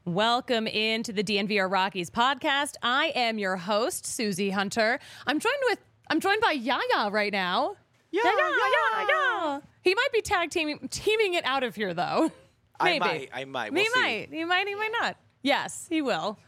Welcome into the DNVR Rockies podcast. I am your host, Susie Hunter. I'm joined by Yaya right now. Yeah. He might be teaming it out of here though. Maybe. I might. He might. He might not. Yes, he will.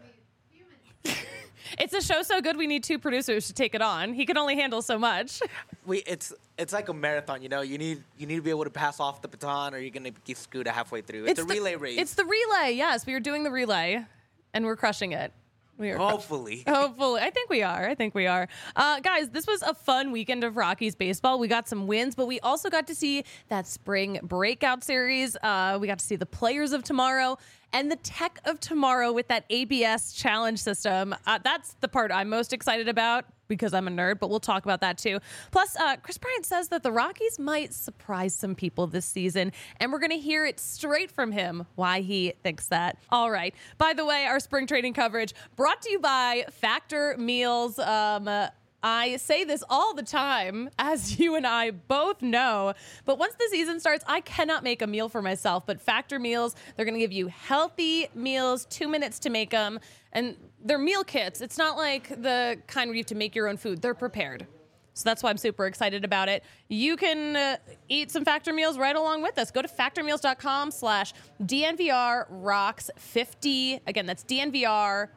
It's a show so good we need two producers to take it on. He can only handle so much. It's like a marathon, you know. You need to be able to pass off the baton, or you're gonna get screwed halfway through. It's a relay race. It's the relay. Yes, we are doing the relay, and we're crushing it. Hopefully. I think we are. Guys, this was a fun weekend of Rockies baseball. We got some wins, but we also got to see that spring breakout series. We got to see the players of tomorrow and the tech of tomorrow with that ABS challenge system. That's the part I'm most excited about because I'm a nerd, but we'll talk about that too. Plus, Chris Bryant says that the Rockies might surprise some people this season, and we're going to hear it straight from him why he thinks that. All right. By the way, our spring training coverage brought to you by Factor Meals. I say this all the time, as you and I both know, but once the season starts, I cannot make a meal for myself. But Factor Meals, they're going to give you healthy meals, 2 minutes to make them, and they're meal kits. It's not like the kind where you have to make your own food. They're prepared. So that's why I'm super excited about it. You can eat some Factor Meals right along with us. Go to factormeals.com/DNVRROX50. Again, that's DNVR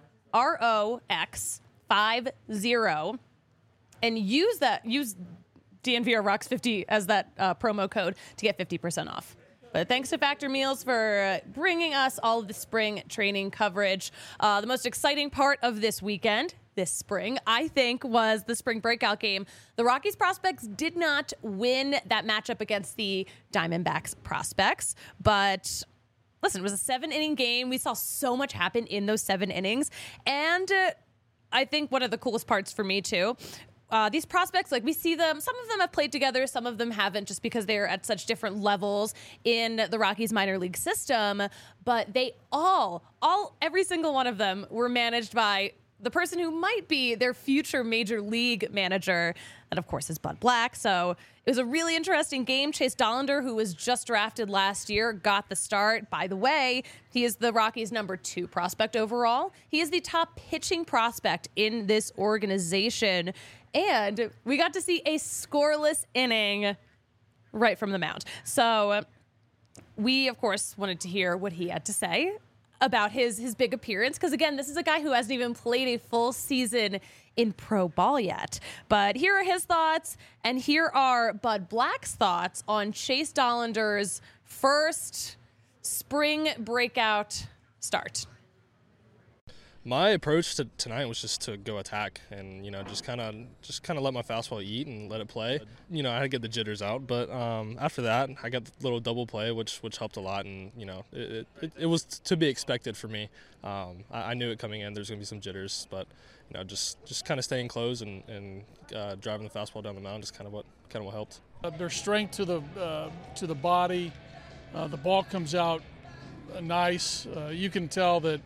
ROX50. And use DNVR Rocks 50 as that promo code to get 50% off. But thanks to Factor Meals for bringing us all of the spring training coverage. The most exciting part of this weekend, this spring, I think, was the spring breakout game. The Rockies prospects did not win that matchup against the Diamondbacks prospects, but listen, it was a 7-inning game. We saw so much happen in those 7 innings. And I think one of the coolest parts for me, too, these prospects, like we see them, some of them have played together, some of them haven't just because they're at such different levels in the Rockies minor league system, but they every single one of them were managed by the person who might be their future major league manager. That, of course, is Bud Black. So it was a really interesting game. Chase Dollander, who was just drafted last year, got the start. By the way, he is the Rockies' number 2 prospect overall. He is the top pitching prospect in this organization. And we got to see a scoreless inning right from the mound. So we, of course, wanted to hear what he had to say about his big appearance. Because, again, this is a guy who hasn't even played a full season in pro ball yet. But here are his thoughts, and here are Bud Black's thoughts on Chase Dollander's first spring breakout start. My approach to tonight was just to go attack and, just kind of let my fastball eat and let it play. I had to get the jitters out, but after that, I got the little double play, which helped a lot, and, it was to be expected for me. I knew it coming in. There's going to be some jitters, but, just kind of staying close and driving the fastball down the mound is kind of what helped. Their strength to the body, the ball comes out nice. You can tell that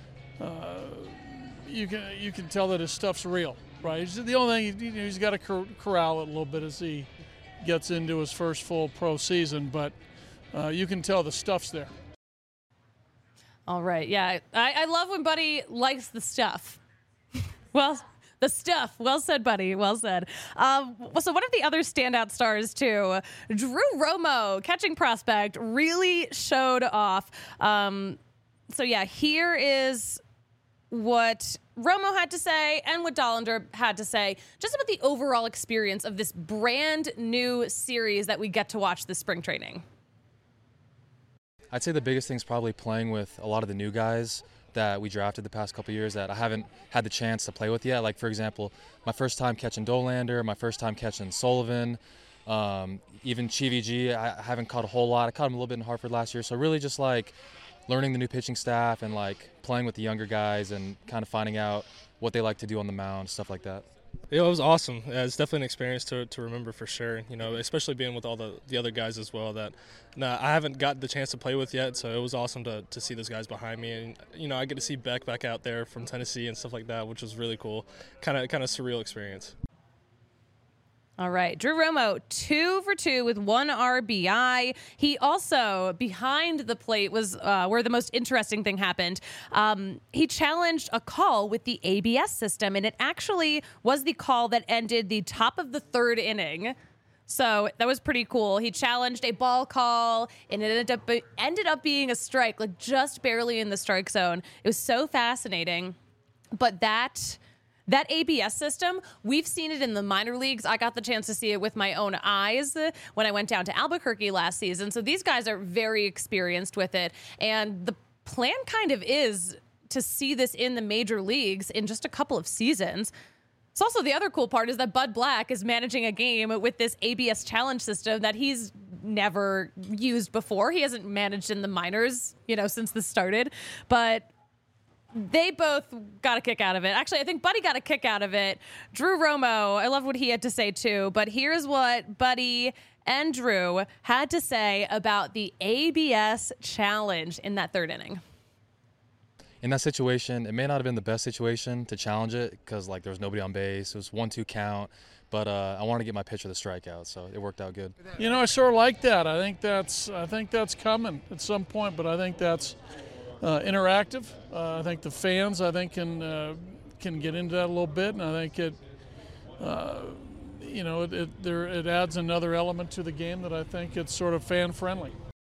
you can tell that his stuff's real, right? The only thing he's got to corral it a little bit as he gets into his first full pro season, but you can tell the stuff's there. All right, yeah, I love when Buddy likes the stuff. Well, the stuff. Well said, Buddy. Well said. So one of the other standout stars, too, Drew Romo, catching prospect, really showed off. So, yeah, here is what Romo had to say and what Dollander had to say just about the overall experience of this brand new series that we get to watch this spring training. I'd say the biggest thing is probably playing with a lot of the new guys that we drafted the past couple of years that I haven't had the chance to play with yet. Like, for example, my first time catching Dollander, my first time catching Sullivan, even Chivi G, I haven't caught a whole lot. I caught him a little bit in Hartford last year. So really just like learning the new pitching staff and like playing with the younger guys and kind of finding out what they like to do on the mound, stuff like that. Yeah, it was awesome. It's definitely an experience to remember for sure, especially being with all the other guys as well that I haven't got the chance to play with yet, so it was awesome to see those guys behind me. And, I get to see Beck back out there from Tennessee and stuff like that, which was really cool. Kind of surreal experience. All right. Drew Romo, 2 for 2 with 1 RBI. He also, behind the plate, was where the most interesting thing happened. He challenged a call with the ABS system, and it actually was the call that ended the top of the 3rd inning. So that was pretty cool. He challenged a ball call, and it ended up being a strike, like just barely in the strike zone. It was so fascinating. But that ABS system, we've seen it in the minor leagues. I got the chance to see it with my own eyes when I went down to Albuquerque last season. So these guys are very experienced with it. And the plan kind of is to see this in the major leagues in just a couple of seasons. It's also the other cool part is that Bud Black is managing a game with this ABS challenge system that he's never used before. He hasn't managed in the minors, since this started. But they both got a kick out of it. Actually, I think Buddy got a kick out of it. Drew Romo, I love what he had to say too, but here's what Buddy and Drew had to say about the ABS challenge in that 3rd inning. In that situation, it may not have been the best situation to challenge it because there was nobody on base. It was 1-2 count, but I wanted to get my pitch of the strikeout, so it worked out good. I sort of like that. I think that's coming at some point, but I think that's interactive. I think the fans, can get into that a little bit, and I think it adds another element to the game that I think it's sort of fan friendly.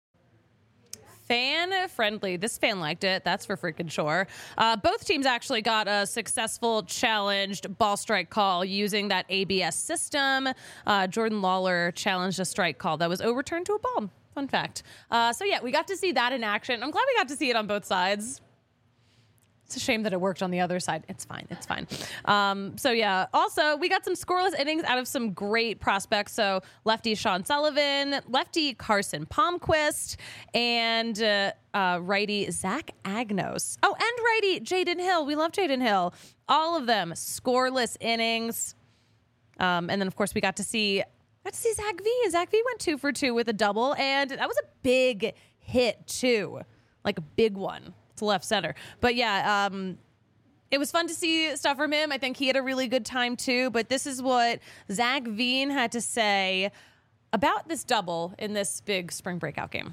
Fan friendly. This fan liked it. That's for freaking sure. Both teams actually got a successful challenged ball strike call using that ABS system. Jordan Lawler challenged a strike call that was overturned to a ball. Fun fact. So yeah, we got to see that in action. I'm glad we got to see it on both sides. It's a shame that it worked on the other side. It's fine. It's fine. So yeah, also we got some scoreless innings out of some great prospects. So lefty Sean Sullivan, lefty Carson Palmquist, and righty Zach Agnos. Oh, and righty Jaden Hill. We love Jaden Hill. All of them scoreless innings. And then of course we got to see Zach V. Zach V went 2 for 2 with a double, and that was a big hit too, like a big one to left center. But yeah, it was fun to see stuff from him. I think he had a really good time too. But this is what Zach Veen had to say about this double in this big spring breakout game.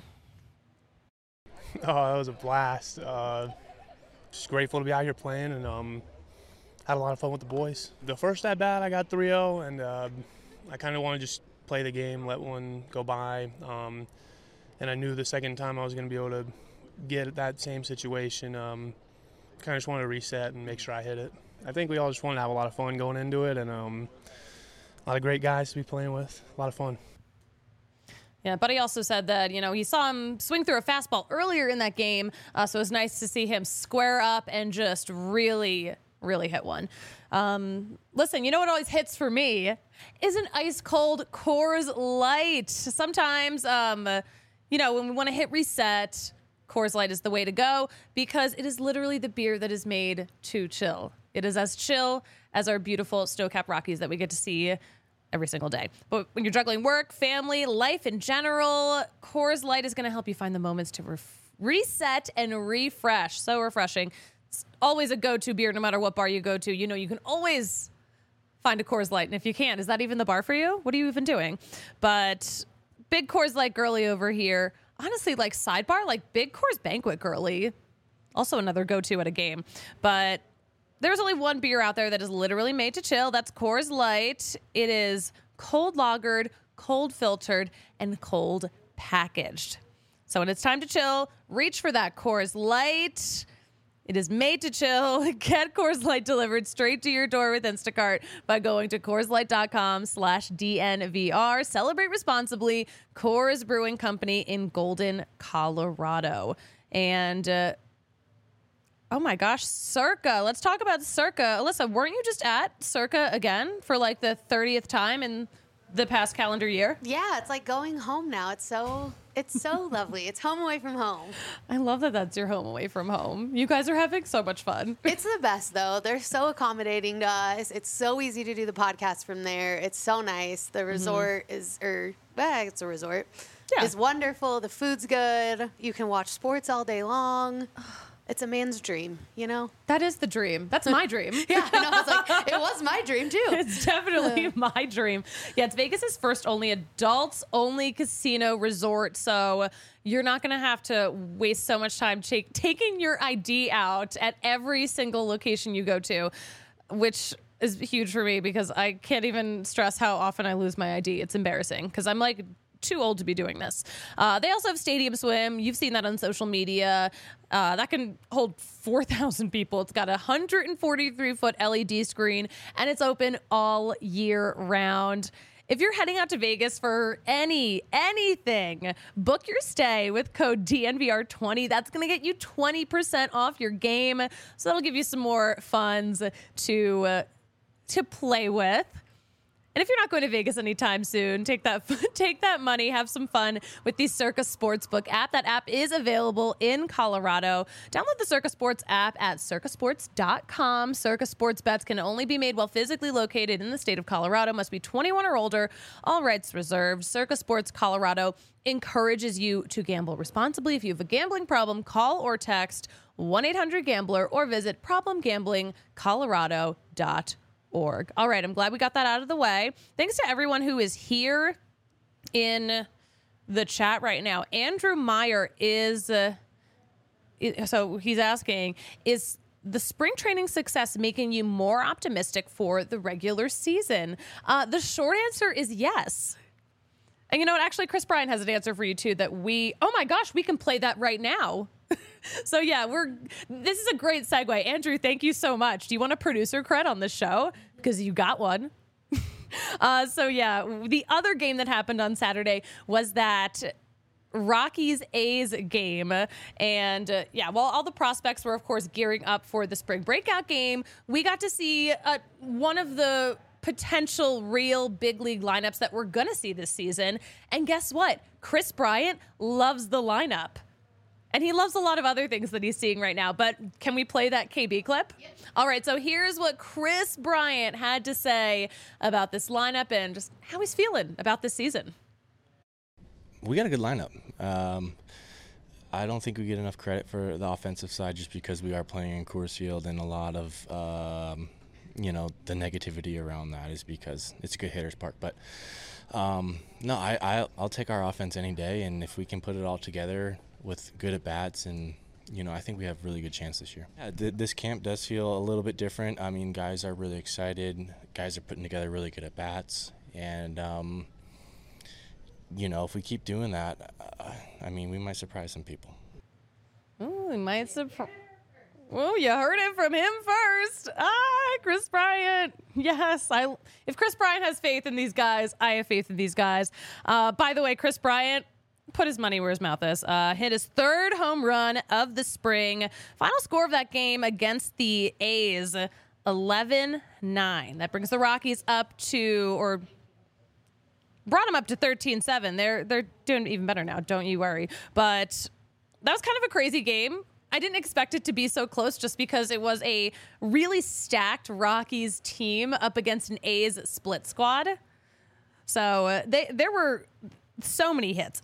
Oh, that was a blast. Just grateful to be out here playing, and had a lot of fun with the boys. The first at bat, I got 3-0, and I kind of want to just play the game, let one go by. And I knew the second time I was going to be able to get that same situation. Kind of just wanted to reset and make sure I hit it. I think we all just wanted to have a lot of fun going into it, and a lot of great guys to be playing with. A lot of fun. Yeah, Buddy also said that, he saw him swing through a fastball earlier in that game, so it was nice to see him square up and just really, really hit one. Listen, what always hits for me is an ice-cold Coors Light. Sometimes, when we want to hit reset, Coors Light is the way to go because it is literally the beer that is made to chill. It is as chill as our beautiful Snowcap Rockies that we get to see every single day. But when you're juggling work, family, life in general, Coors Light is going to help you find the moments to reset and refresh. So refreshing. It's always a go-to beer no matter what bar you go to. You can always find a Coors Light. And if you can't, is that even the bar for you? What are you even doing? But big Coors Light girly over here. Honestly, sidebar, big Coors Banquet girly. Also another go-to at a game. But there's only one beer out there that is literally made to chill. That's Coors Light. It is cold lagered, cold filtered, and cold packaged. So when it's time to chill, reach for that Coors Light. It is made to chill. Get Coors Light delivered straight to your door with Instacart by going to CoorsLight.com/DNVR. Celebrate responsibly. Coors Brewing Company in Golden, Colorado. And, oh my gosh, Circa. Let's talk about Circa. Alyssa, weren't you just at Circa again for the 30th time in the past calendar year? Yeah, it's like going home now. It's so lovely. It's home away from home. I love that that's your home away from home. You guys are having so much fun. It's the best, though. They're so accommodating to us. It's so easy to do the podcast from there. It's so nice. The resort it's a resort. Yeah. It's wonderful. The food's good. You can watch sports all day long. It's a man's dream, you know? That is the dream. That's my dream. Yeah, I know. I was like, it was my dream too. It's definitely my dream. Yeah, it's Vegas's first adults-only casino resort, so you're not going to have to waste so much time taking your ID out at every single location you go to, which is huge for me because I can't even stress how often I lose my ID. It's embarrassing because I'm like too old to be doing this. They also have Stadium Swim. You've seen that on social media. That can hold 4,000 people. It's got a 143-foot LED screen, and it's open all year round. If you're heading out to Vegas for anything, book your stay with code DNVR20. That's going to get you 20% off your game. So that'll give you some more funds to play with. And if you're not going to Vegas anytime soon, take that money, have some fun with the Circa Sportsbook app. That app is available in Colorado. Download the Circa Sports app at circasports.com. Circa Sports bets can only be made while physically located in the state of Colorado. Must be 21 or older. All rights reserved. Circa Sports Colorado encourages you to gamble responsibly. If you have a gambling problem, call or text 1-800-GAMBLER or visit problemgamblingcolorado.org. All right, I'm glad we got that out of the way. Thanks to everyone who is here in the chat right now. Andrew Meyer so he's asking, is the spring training success making you more optimistic for the regular season? The short answer is yes. And you know what? Actually, Chris Bryant has an answer for you too oh my gosh, we can play that right now. So yeah, this is a great segue. Andrew, thank you so much. Do you want a producer cred on the show? Because you got one. So yeah, the other game that happened on Saturday was that Rockies-A's game. And while all the prospects were, of course, gearing up for the spring breakout game, we got to see one of the potential real big league lineups that we're going to see this season. And guess what? Chris Bryant loves the lineup. And he loves a lot of other things that he's seeing right now. But can we play that KB clip? Yep. All right, so here's what Chris Bryant had to say about this lineup and just how he's feeling about this season. We got a good lineup. I don't think we get enough credit for the offensive side just because we are playing in Coors Field, and a lot of, the negativity around that is because it's a good hitter's park. But, I'll take our offense any day, and if we can put it all together with good at-bats, and I think we have a really good chance this year. Yeah, this camp does feel a little bit different. I mean, guys are really excited. Guys are putting together really good at-bats, and if we keep doing that, we might surprise some people. Oh, we might surprise. Oh, you heard it from him first. Chris Bryant. Yes, if Chris Bryant has faith in these guys, I have faith in these guys. By the way, Chris Bryant put his money where his mouth is. Hit his third home run of the spring. Final score of that game against the A's, 11-9. That brings the Rockies up to, brought them up to 13-7. They're doing even better now, don't you worry. But that was kind of a crazy game. I didn't expect it to be so close just because it was a really stacked Rockies team up against an A's split squad. So there were so many hits.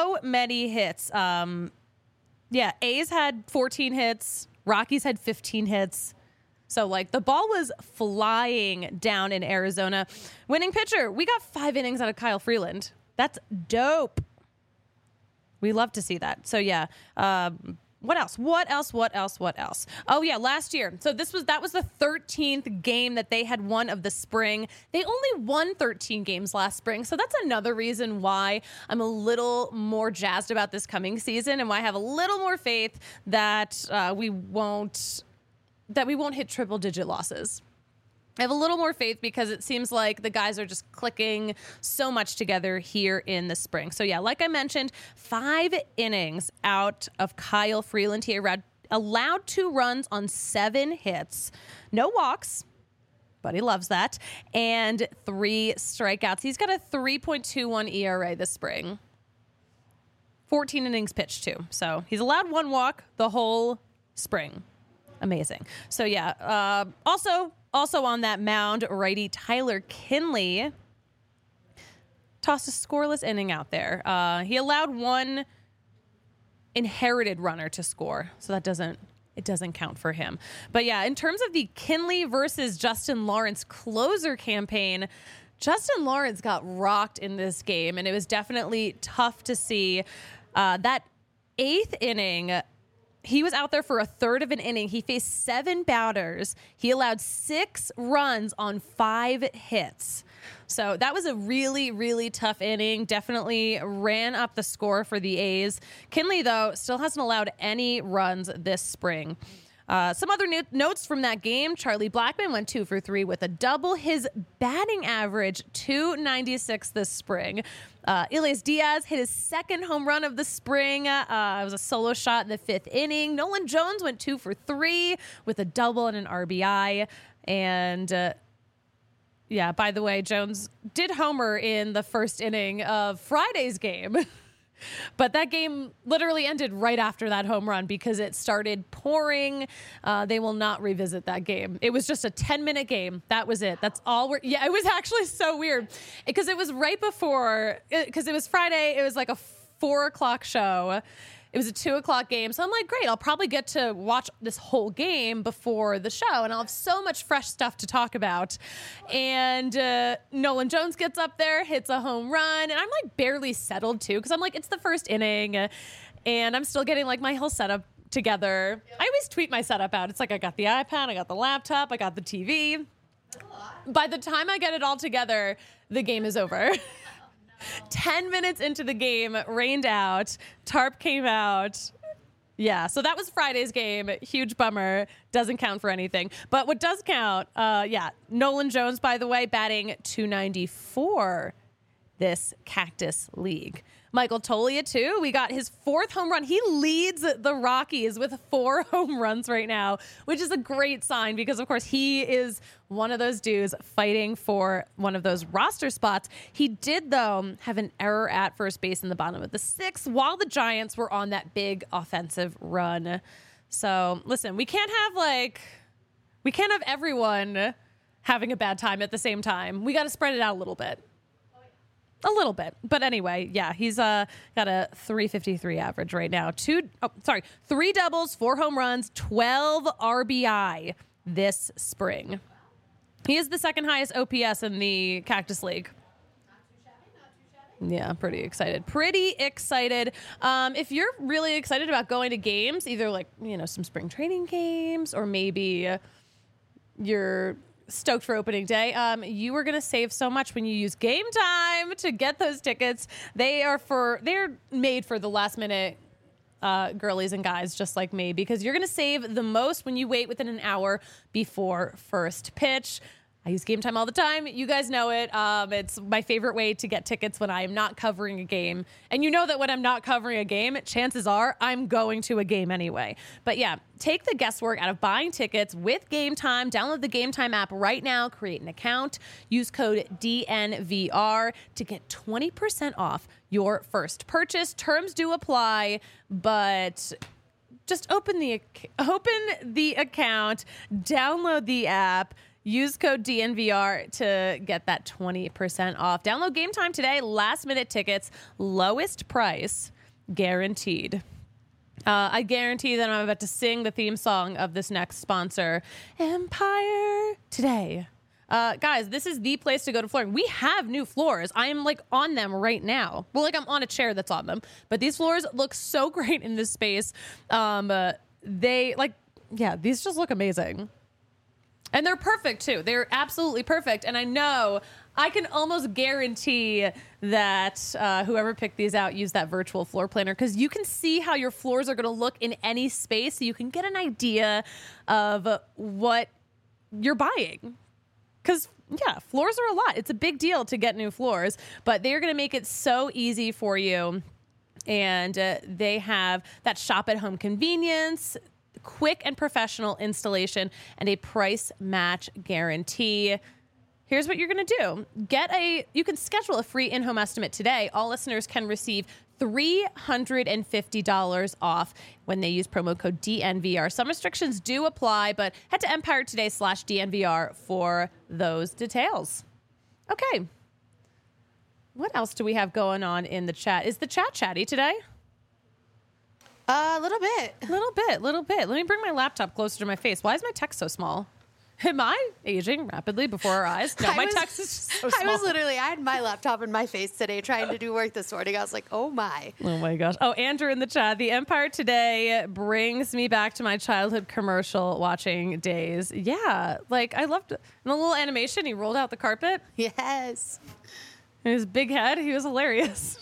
A's had 14 hits. Rockies had 15 hits. So, the ball was flying down in Arizona. Winning pitcher, we got 5 innings out of Kyle Freeland. That's dope. We love to see that. So, yeah. What else? Oh, yeah, last year. So that was the 13th game that they had won of the spring. They only won 13 games last spring. So that's another reason why I'm a little more jazzed about this coming season and why I have a little more faith that we won't hit triple-digit losses. I have a little more faith because it seems like the guys are just clicking so much together here in the spring. So, yeah, like I mentioned, 5 innings out of Kyle Freeland. He allowed 2 runs on 7 hits. No walks, but he loves that. And 3 strikeouts. He's got a 3.21 ERA this spring. 14 innings pitched, too. So he's allowed 1 walk the whole spring. Amazing. So, yeah, also on that mound, righty Tyler Kinley tossed a scoreless inning out there. He allowed 1 inherited runner to score, so that doesn't it doesn't count for him. But yeah, in terms of the Kinley versus Justin Lawrence closer campaign, Justin Lawrence got rocked in this game, and it was definitely tough to see. That 8th inning, he was out there for a third of an inning. He faced 7 batters. He allowed 6 runs on 5 hits. So that was a really, really tough inning. Definitely ran up the score for the A's. Kinley, though, still hasn't allowed any runs this spring. Some other notes from that game. Charlie Blackmon went 2 for 3 with a double. His batting average, .296 this spring. Elias Diaz hit his 2nd home run of the spring. It was a solo shot in the 5th inning. Nolan Jones went 2 for 3 with a double and an RBI. And yeah, by the way, Jones did homer in the 1st inning of Friday's game. But that game literally ended right after that home run because it started pouring. They will not revisit that game. It was just a 10-minute game. That was it. That's all yeah, it was actually so weird because it was right before, because it was Friday. It was like a 4:00 show. It was a 2:00 game. So I'm like, great, I'll probably get to watch this whole game before the show, and I'll have so much fresh stuff to talk about. And Nolan Jones gets up there, hits a home run, and I'm like barely settled too, because I'm like, it's the 1st inning, and I'm still getting like my whole setup together. I always tweet my setup out. It's like I got the iPad, I got the laptop, I got the TV. By the time I get it all together, the game is over. 10 minutes into the game, rained out, tarp came out. Yeah, so that was Friday's game. Huge bummer. Doesn't count for anything. But what does count, Nolan Jones, by the way, batting .294 this Cactus League. Michael Toglia, too. We got his 4th home run. He leads the Rockies with 4 home runs right now, which is a great sign because, of course, he is one of those dudes fighting for one of those roster spots. He did, though, have an error at first base in the bottom of the 6th while the Giants were on that big offensive run. So, listen, we can't have everyone having a bad time at the same time. We got to spread it out a little bit. A little bit. But anyway, yeah, he's got a .353 average right now. 3 doubles, 4 home runs, 12 RBI this spring. He is the 2nd highest OPS in the Cactus League. Yeah, pretty excited. If you're really excited about going to games, either some spring training games or maybe you're stoked for opening day, you are going to save so much when you use Game Time to get those tickets. They're made for the last minute girlies and guys just like me, because you're going to save the most when you wait within an hour before first pitch. I use Game Time all the time. You guys know it. It's my favorite way to get tickets when I am not covering a game. And you know that when I'm not covering a game, chances are I'm going to a game anyway. But yeah, take the guesswork out of buying tickets with Game Time. Download the Game Time app right now. Create an account. Use code DNVR to get 20% off your first purchase. Terms do apply, but just open the account, download the app. Use code DNVR to get that 20% off. Download Game Time today. Last minute tickets, lowest price guaranteed. I guarantee that I'm about to sing the theme song of this next sponsor, Empire Today. Guys, this is the place to go to flooring. We have new floors. I am on them right now. Well, I'm on a chair that's on them. But these floors look so great in this space. These just look amazing. And they're perfect, too. They're absolutely perfect. And I know I can almost guarantee that whoever picked these out used that virtual floor planner, because you can see how your floors are going to look in any space. So you can get an idea of what you're buying. Because, yeah, floors are a lot. It's a big deal to get new floors. But they're going to make it so easy for you. And they have that shop-at-home convenience, quick and professional installation, and a price match guarantee. Here's what you're going to do. You can schedule a free in-home estimate today. All listeners can receive $350 off when they use promo code DNVR. Some restrictions do apply, but head to empiretoday.com/DNVR for those details. Okay. What else do we have going on in the chat? Is the chat chatty today? A little bit. Little bit. Let me bring my laptop closer to my face. Why is my text so small? Am I aging rapidly before our eyes? No, my text is so small. I had my laptop in my face today trying to do work this morning. I was like, oh my. Oh my gosh. Oh, Andrew in the chat. The Empire Today brings me back to my childhood commercial watching days. Yeah. Like, I loved it. And the little animation, he rolled out the carpet. Yes. And his big head, he was hilarious.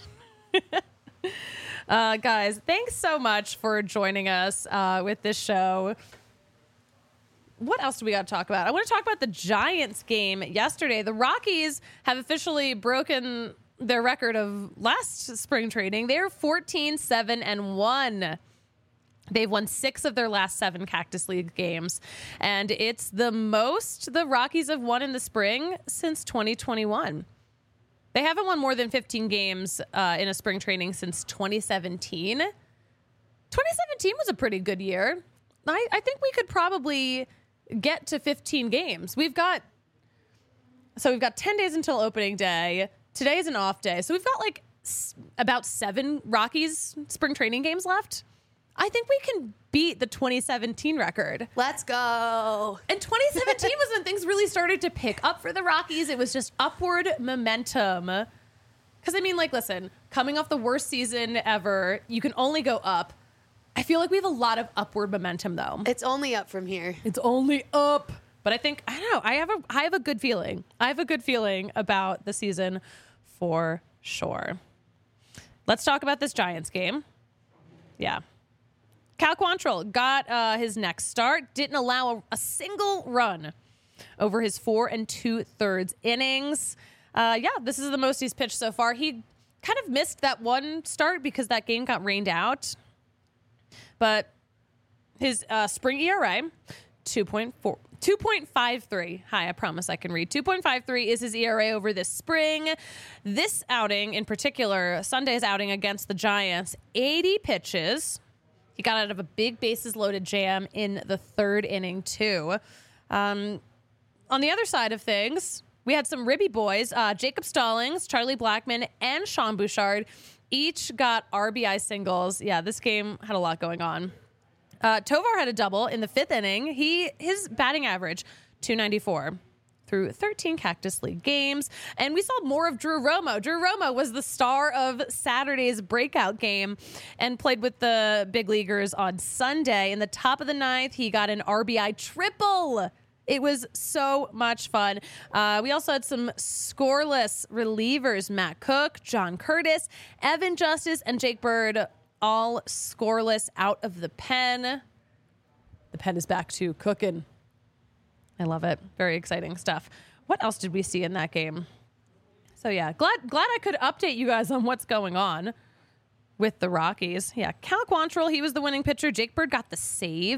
Guys, thanks so much for joining us with this show. What else do we got to talk about? I want to talk about the Giants game yesterday. The Rockies have officially broken their record of last spring training. They're 14-7-1. They've won 6 of their last 7 Cactus League games. And it's the most the Rockies have won in the spring since 2021. They haven't won more than 15 games in a spring training since 2017. 2017 was a pretty good year. I think we could probably get to 15 games. We've got 10 days until opening day. Today is an off day. So we've got like about 7 Rockies spring training games left. I think we can beat the 2017 record. Let's go. And 2017 was when things really started to pick up for the Rockies. It was just upward momentum. Because, I mean, like, listen, coming off the worst season ever, you can only go up. I feel like we have a lot of upward momentum, though. It's only up from here. It's only up. But I think, I don't know, I have a good feeling. I have a good feeling about the season for sure. Let's talk about this Giants game. Yeah. Cal Quantrill got his next start, didn't allow a single run over his 4 2/3 innings. This is the most he's pitched so far. He kind of missed that one start because that game got rained out. But his spring ERA, 2.53. Hi, I promise I can read. 2.53 is his ERA over this spring. This outing in particular, Sunday's outing against the Giants, 80 pitches. He got out of a big bases loaded jam in the 3rd inning, too. On the other side of things, we had some ribby boys. Jacob Stallings, Charlie Blackmon, and Sean Bouchard each got RBI singles. Yeah, this game had a lot going on. Tovar had a double in the 5th inning. His batting average, 294 through 13 Cactus League games. And we saw more of Drew Romo. Drew Romo was the star of Saturday's breakout game and played with the big leaguers on Sunday. In the top of the 9th, he got an RBI triple. It was so much fun. We also had some scoreless relievers, Matt Cook, John Curtis, Evan Justice, and Jake Bird, all scoreless out of the pen. The pen is back to cooking. I love it. Very exciting stuff. What else did we see in that game? So yeah, glad I could update you guys on what's going on with the Rockies. Yeah, Cal Quantrill, he was the winning pitcher. Jake Bird got the save.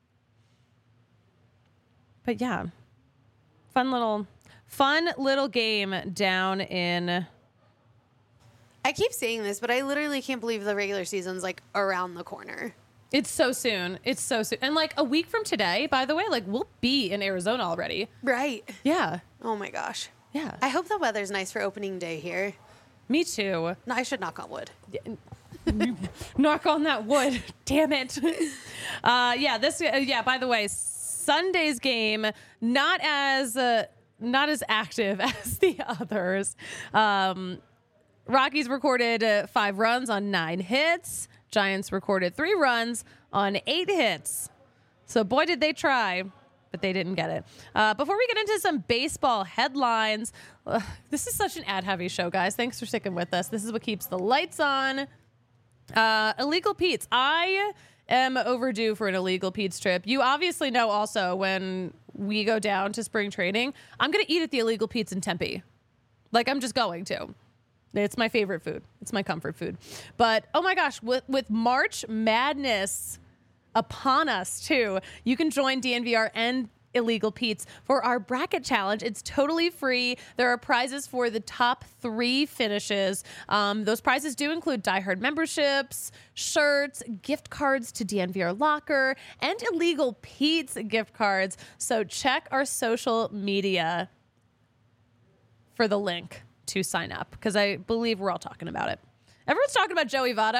But yeah, fun little game down in. I keep saying this, but I literally can't believe the regular season's like around the corner. It's so soon. It's so soon. And like a week from today, by the way, like we'll be in Arizona already. Right. Yeah. Oh my gosh. Yeah. I hope the weather's nice for opening day here. Me too. No, I should knock on wood. Knock on that wood. Damn it. By the way, Sunday's game, not as active as the others. Rockies recorded 5 runs on 9 hits. Giants recorded 3 runs on 8 hits. So boy, did they try, but they didn't get it. Before we get into some baseball headlines, this is such an ad-heavy show, guys. Thanks for sticking with us. This is what keeps the lights on. Illegal Pete's. I am overdue for an Illegal Pete's trip. You obviously know also when we go down to spring training, I'm going to eat at the Illegal Pete's in Tempe. Like, I'm just going to. It's my favorite food. It's my comfort food. But, oh my gosh, with March Madness upon us, too, you can join DNVR and Illegal Pete's for our bracket challenge. It's totally free. There are prizes for the top 3 finishes. Those prizes do include Die Hard memberships, shirts, gift cards to DNVR Locker, and Illegal Pete's gift cards. So check our social media for the link to sign up, because I believe we're all talking about it. Everyone's talking about Joey Votto.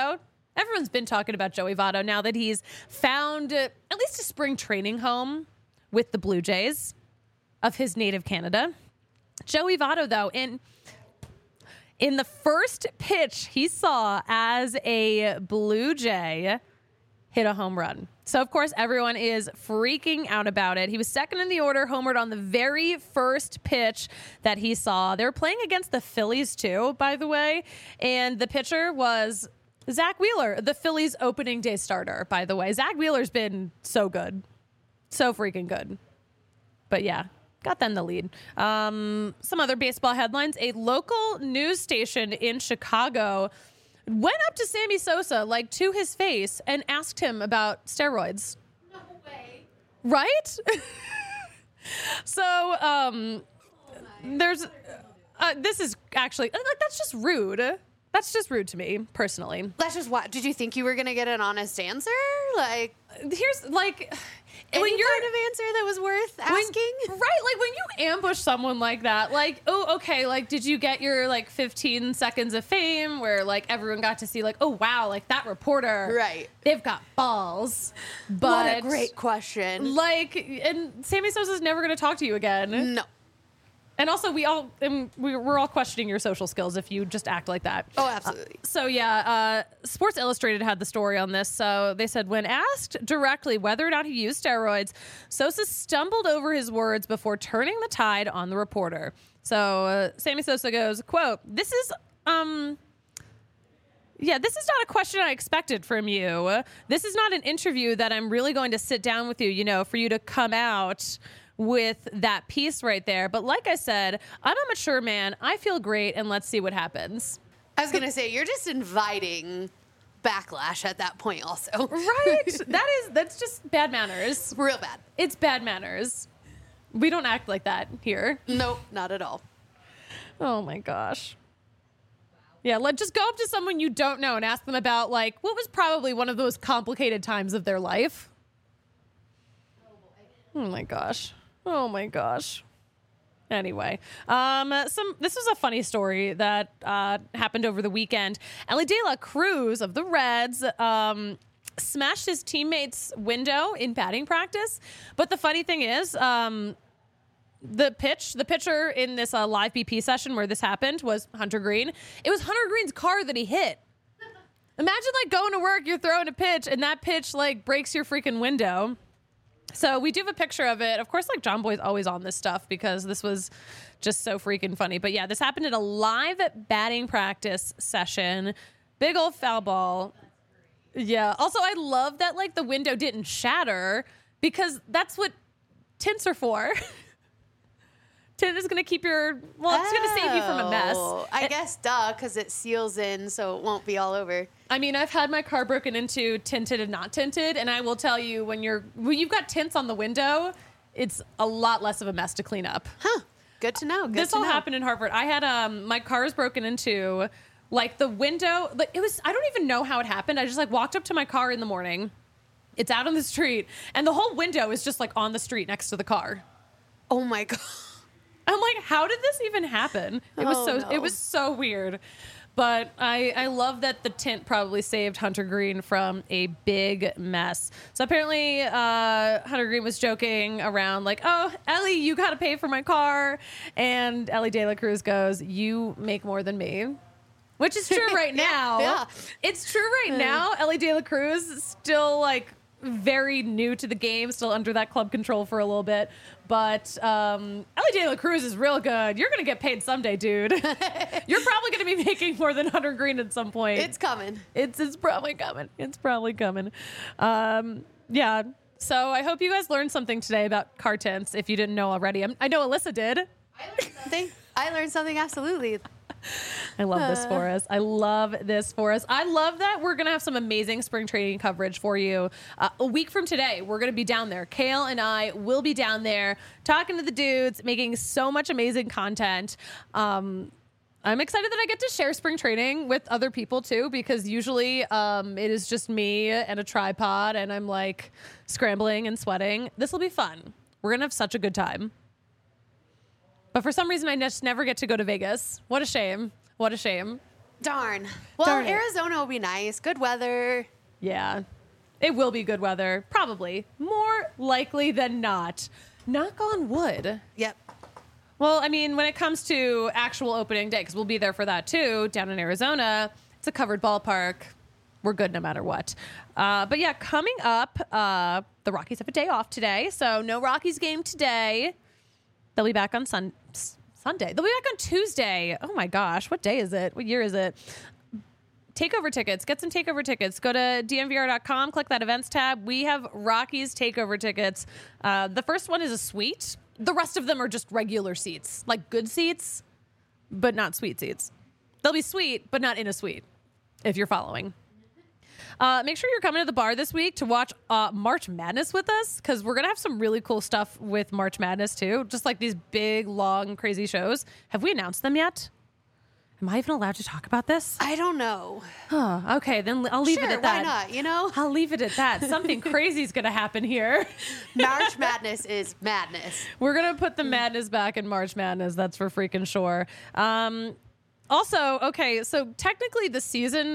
Everyone's been talking about Joey Votto now that he's found at least a spring training home with the Blue Jays of his native Canada. Joey Votto, though, in the first pitch he saw as a Blue Jay, hit a home run. So, of course, everyone is freaking out about it. He was second in the order, homered on the very first pitch that he saw. They were playing against the Phillies, too, by the way. And the pitcher was Zach Wheeler, the Phillies opening day starter, by the way. Zach Wheeler's been so good. So freaking good. But yeah, got them the lead. Some other baseball headlines. A local news station in Chicago went up to Sammy Sosa, like to his face, and asked him about steroids. No way. Right? So, there's, this is actually, like, that's just rude. That's just rude to me, personally. That's just what. Did you think you were going to get an honest answer? Like, here's, like, any when you're kind of answer that was worth asking? Right, like when you ambush someone like that, like, oh, okay, like, did you get your, like, 15 seconds of fame where, like, everyone got to see, like, oh, wow, like, that reporter, right, they've got balls. But, what a great question. Like, and Sammy Sosa's never going to talk to you again. No. And also, we're all questioning your social skills if you just act like that. Oh, absolutely. So yeah, Sports Illustrated had the story on this. So they said when asked directly whether or not he used steroids, Sosa stumbled over his words before turning the tide on the reporter. So Sammy Sosa goes, quote, this is not a question I expected from you. This is not an interview that I'm really going to sit down with you, for you to come out with that piece right there. But like I said, I'm a mature man. I feel great, and let's see what happens. I was going to say, you're just inviting backlash at that point also. Right? That's just bad manners. Real bad. It's bad manners. We don't act like that here. Nope, not at all. Oh my gosh. Yeah, just go up to someone you don't know and ask them about, like, what was probably one of those complicated times of their life. Oh my gosh. Oh my gosh. Anyway, this was a funny story that happened over the weekend. Elly De La Cruz of the Reds smashed his teammate's window in batting practice. But the funny thing is, the pitcher in this live BP session where this happened was Hunter Green. It was Hunter Green's car that he hit. Imagine, like, going to work, you're throwing a pitch, and that pitch, like, breaks your freaking window. So we do have a picture of it. Of course, like, John Boy's always on this stuff because this was just so freaking funny. But yeah, this happened at a live batting practice session. Big old foul ball. Yeah. Also, I love that, like, the window didn't shatter because that's what tints are for. Tint is going to keep it's going to save you from a mess. I guess, because it seals in so it won't be all over. I mean, I've had my car broken into tinted and not tinted, and I will tell you, when you've got tints on the window, it's a lot less of a mess to clean up. Huh. Good to know. This all happened in Hartford. I had my car was broken into, like, the window. Like, I don't even know how it happened. I just, like, walked up to my car in the morning. It's out on the street, and the whole window is just, like, on the street next to the car. Oh my God. I'm like, how did this even happen? It was so weird. But I love that the tint probably saved Hunter Green from a big mess. So apparently Hunter Green was joking around like, oh, Elly, you got to pay for my car. And Elly De La Cruz goes, you make more than me. Which is true right now. Yeah. It's true right now. Elly De La Cruz is still, like, very new to the game, still under that club control for a little bit. But Elly De La Cruz is real good. You're going to get paid someday, dude. You're probably going to be making more than Hunter Green at some point. It's coming. It's probably coming. It's probably coming. Yeah. So I hope you guys learned something today about car tints if you didn't know already. I know Alyssa did. I learned something, absolutely. I love this for us. I love this for us. I love that we're going to have some amazing spring training coverage for you. A week from today, we're going to be down there. Kale and I will be down there talking to the dudes, making so much amazing content. I'm excited that I get to share spring training with other people too, because usually it is just me and a tripod and I'm like scrambling and sweating. This will be fun. We're going to have such a good time. But for some reason, I just never get to go to Vegas. What a shame. What a shame. Darn. Well, Darn it. Arizona will be nice. Good weather. Yeah, it will be good weather. Probably. More likely than not. Knock on wood. Yep. Well, I mean, when it comes to actual opening day, because we'll be there for that too, down in Arizona, it's a covered ballpark. We're good no matter what. But yeah, coming up, the Rockies have a day off today, so no Rockies game today. They'll be back on Sunday. They'll be back on Tuesday. Oh my gosh, what day is it? What year is it? Takeover tickets. Get some takeover tickets. Go to dnvr.com, click that events tab. We have Rockies takeover tickets. The first one is a suite. The rest of them are just regular seats, like good seats, but not suite seats. They'll be sweet, but not in a suite, if you're following. Make sure you're coming to the bar this week to watch March Madness with us, because we're going to have some really cool stuff with March Madness, too. Just like these big, long, crazy shows. Have we announced them yet? Am I even allowed to talk about this? I don't know. Okay, then I'll leave it at that. Why not? You know? I'll leave it at that. Something crazy is going to happen here. March Madness is madness. We're going to put the madness back in March Madness. That's for freaking sure. Also, okay, so technically the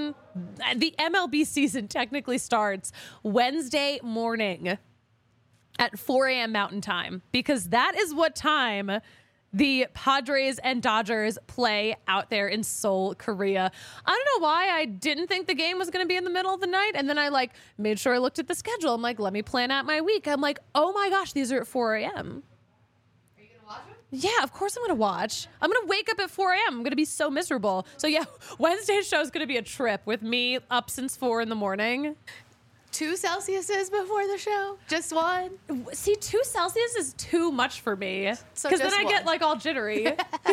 MLB season technically starts Wednesday morning at 4 a.m. Mountain Time, because that is what time the Padres and Dodgers play out there in Seoul, Korea. I don't know why I didn't think the game was going to be in the middle of the night. And then I made sure I looked at the schedule. I'm like, let me plan out my week. I'm like, oh my gosh, these are at 4 a.m. Are you going to watch them? Yeah, of course I'm going to watch. I'm going to wake up at 4 a.m. I'm going to be so miserable. So yeah, Wednesday's show is going to be a trip with me up since 4 in the morning. 2 Celsiuses before the show? Just 1? See, 2 Celsius is too much for me. So Because then just I get all jittery.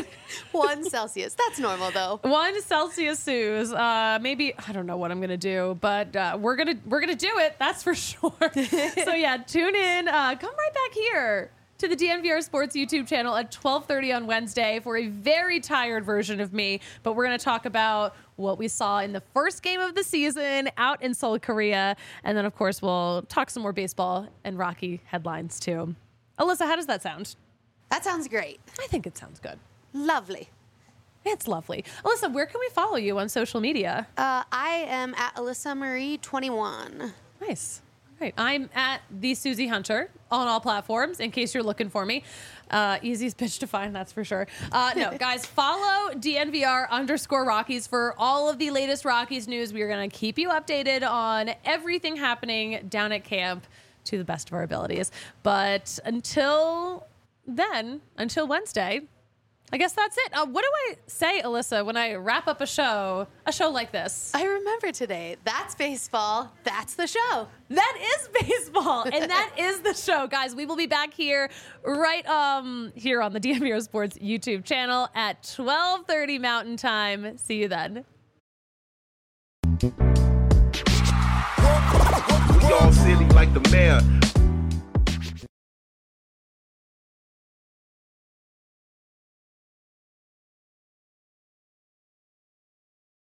1 Celsius. That's normal though. 1 Celsius Suze. Maybe I don't know what I'm gonna do, but we're gonna do it. That's for sure. So yeah, tune in. Come right back here to the DNVR Sports YouTube channel at 12:30 on Wednesday for a very tired version of me. But we're gonna talk about what we saw in the first game of the season out in Seoul, Korea, and then of course we'll talk some more baseball and Rocky headlines too. Alyssa, how does that sound? That sounds great. I think it sounds good. Lovely. It's lovely. Alyssa, where can we follow you on social media? I am at Alyssa Marie 21. Nice. Great. I'm at the Susie Hunter on all platforms, in case you're looking for me. Easiest bitch to find, that's for sure. No, guys, follow DNVR_Rockies for all of the latest Rockies news. We are going to keep you updated on everything happening down at camp to the best of our abilities. But until then, until Wednesday, I guess that's it. What do I say, Alyssa, when I wrap up a show like this? I remember today. That's baseball. That's the show. That is baseball, and that is the show, guys. We will be back here right here on the DNVR Sports YouTube channel at 12:30 Mountain Time. See you then. We all silly like the mayor.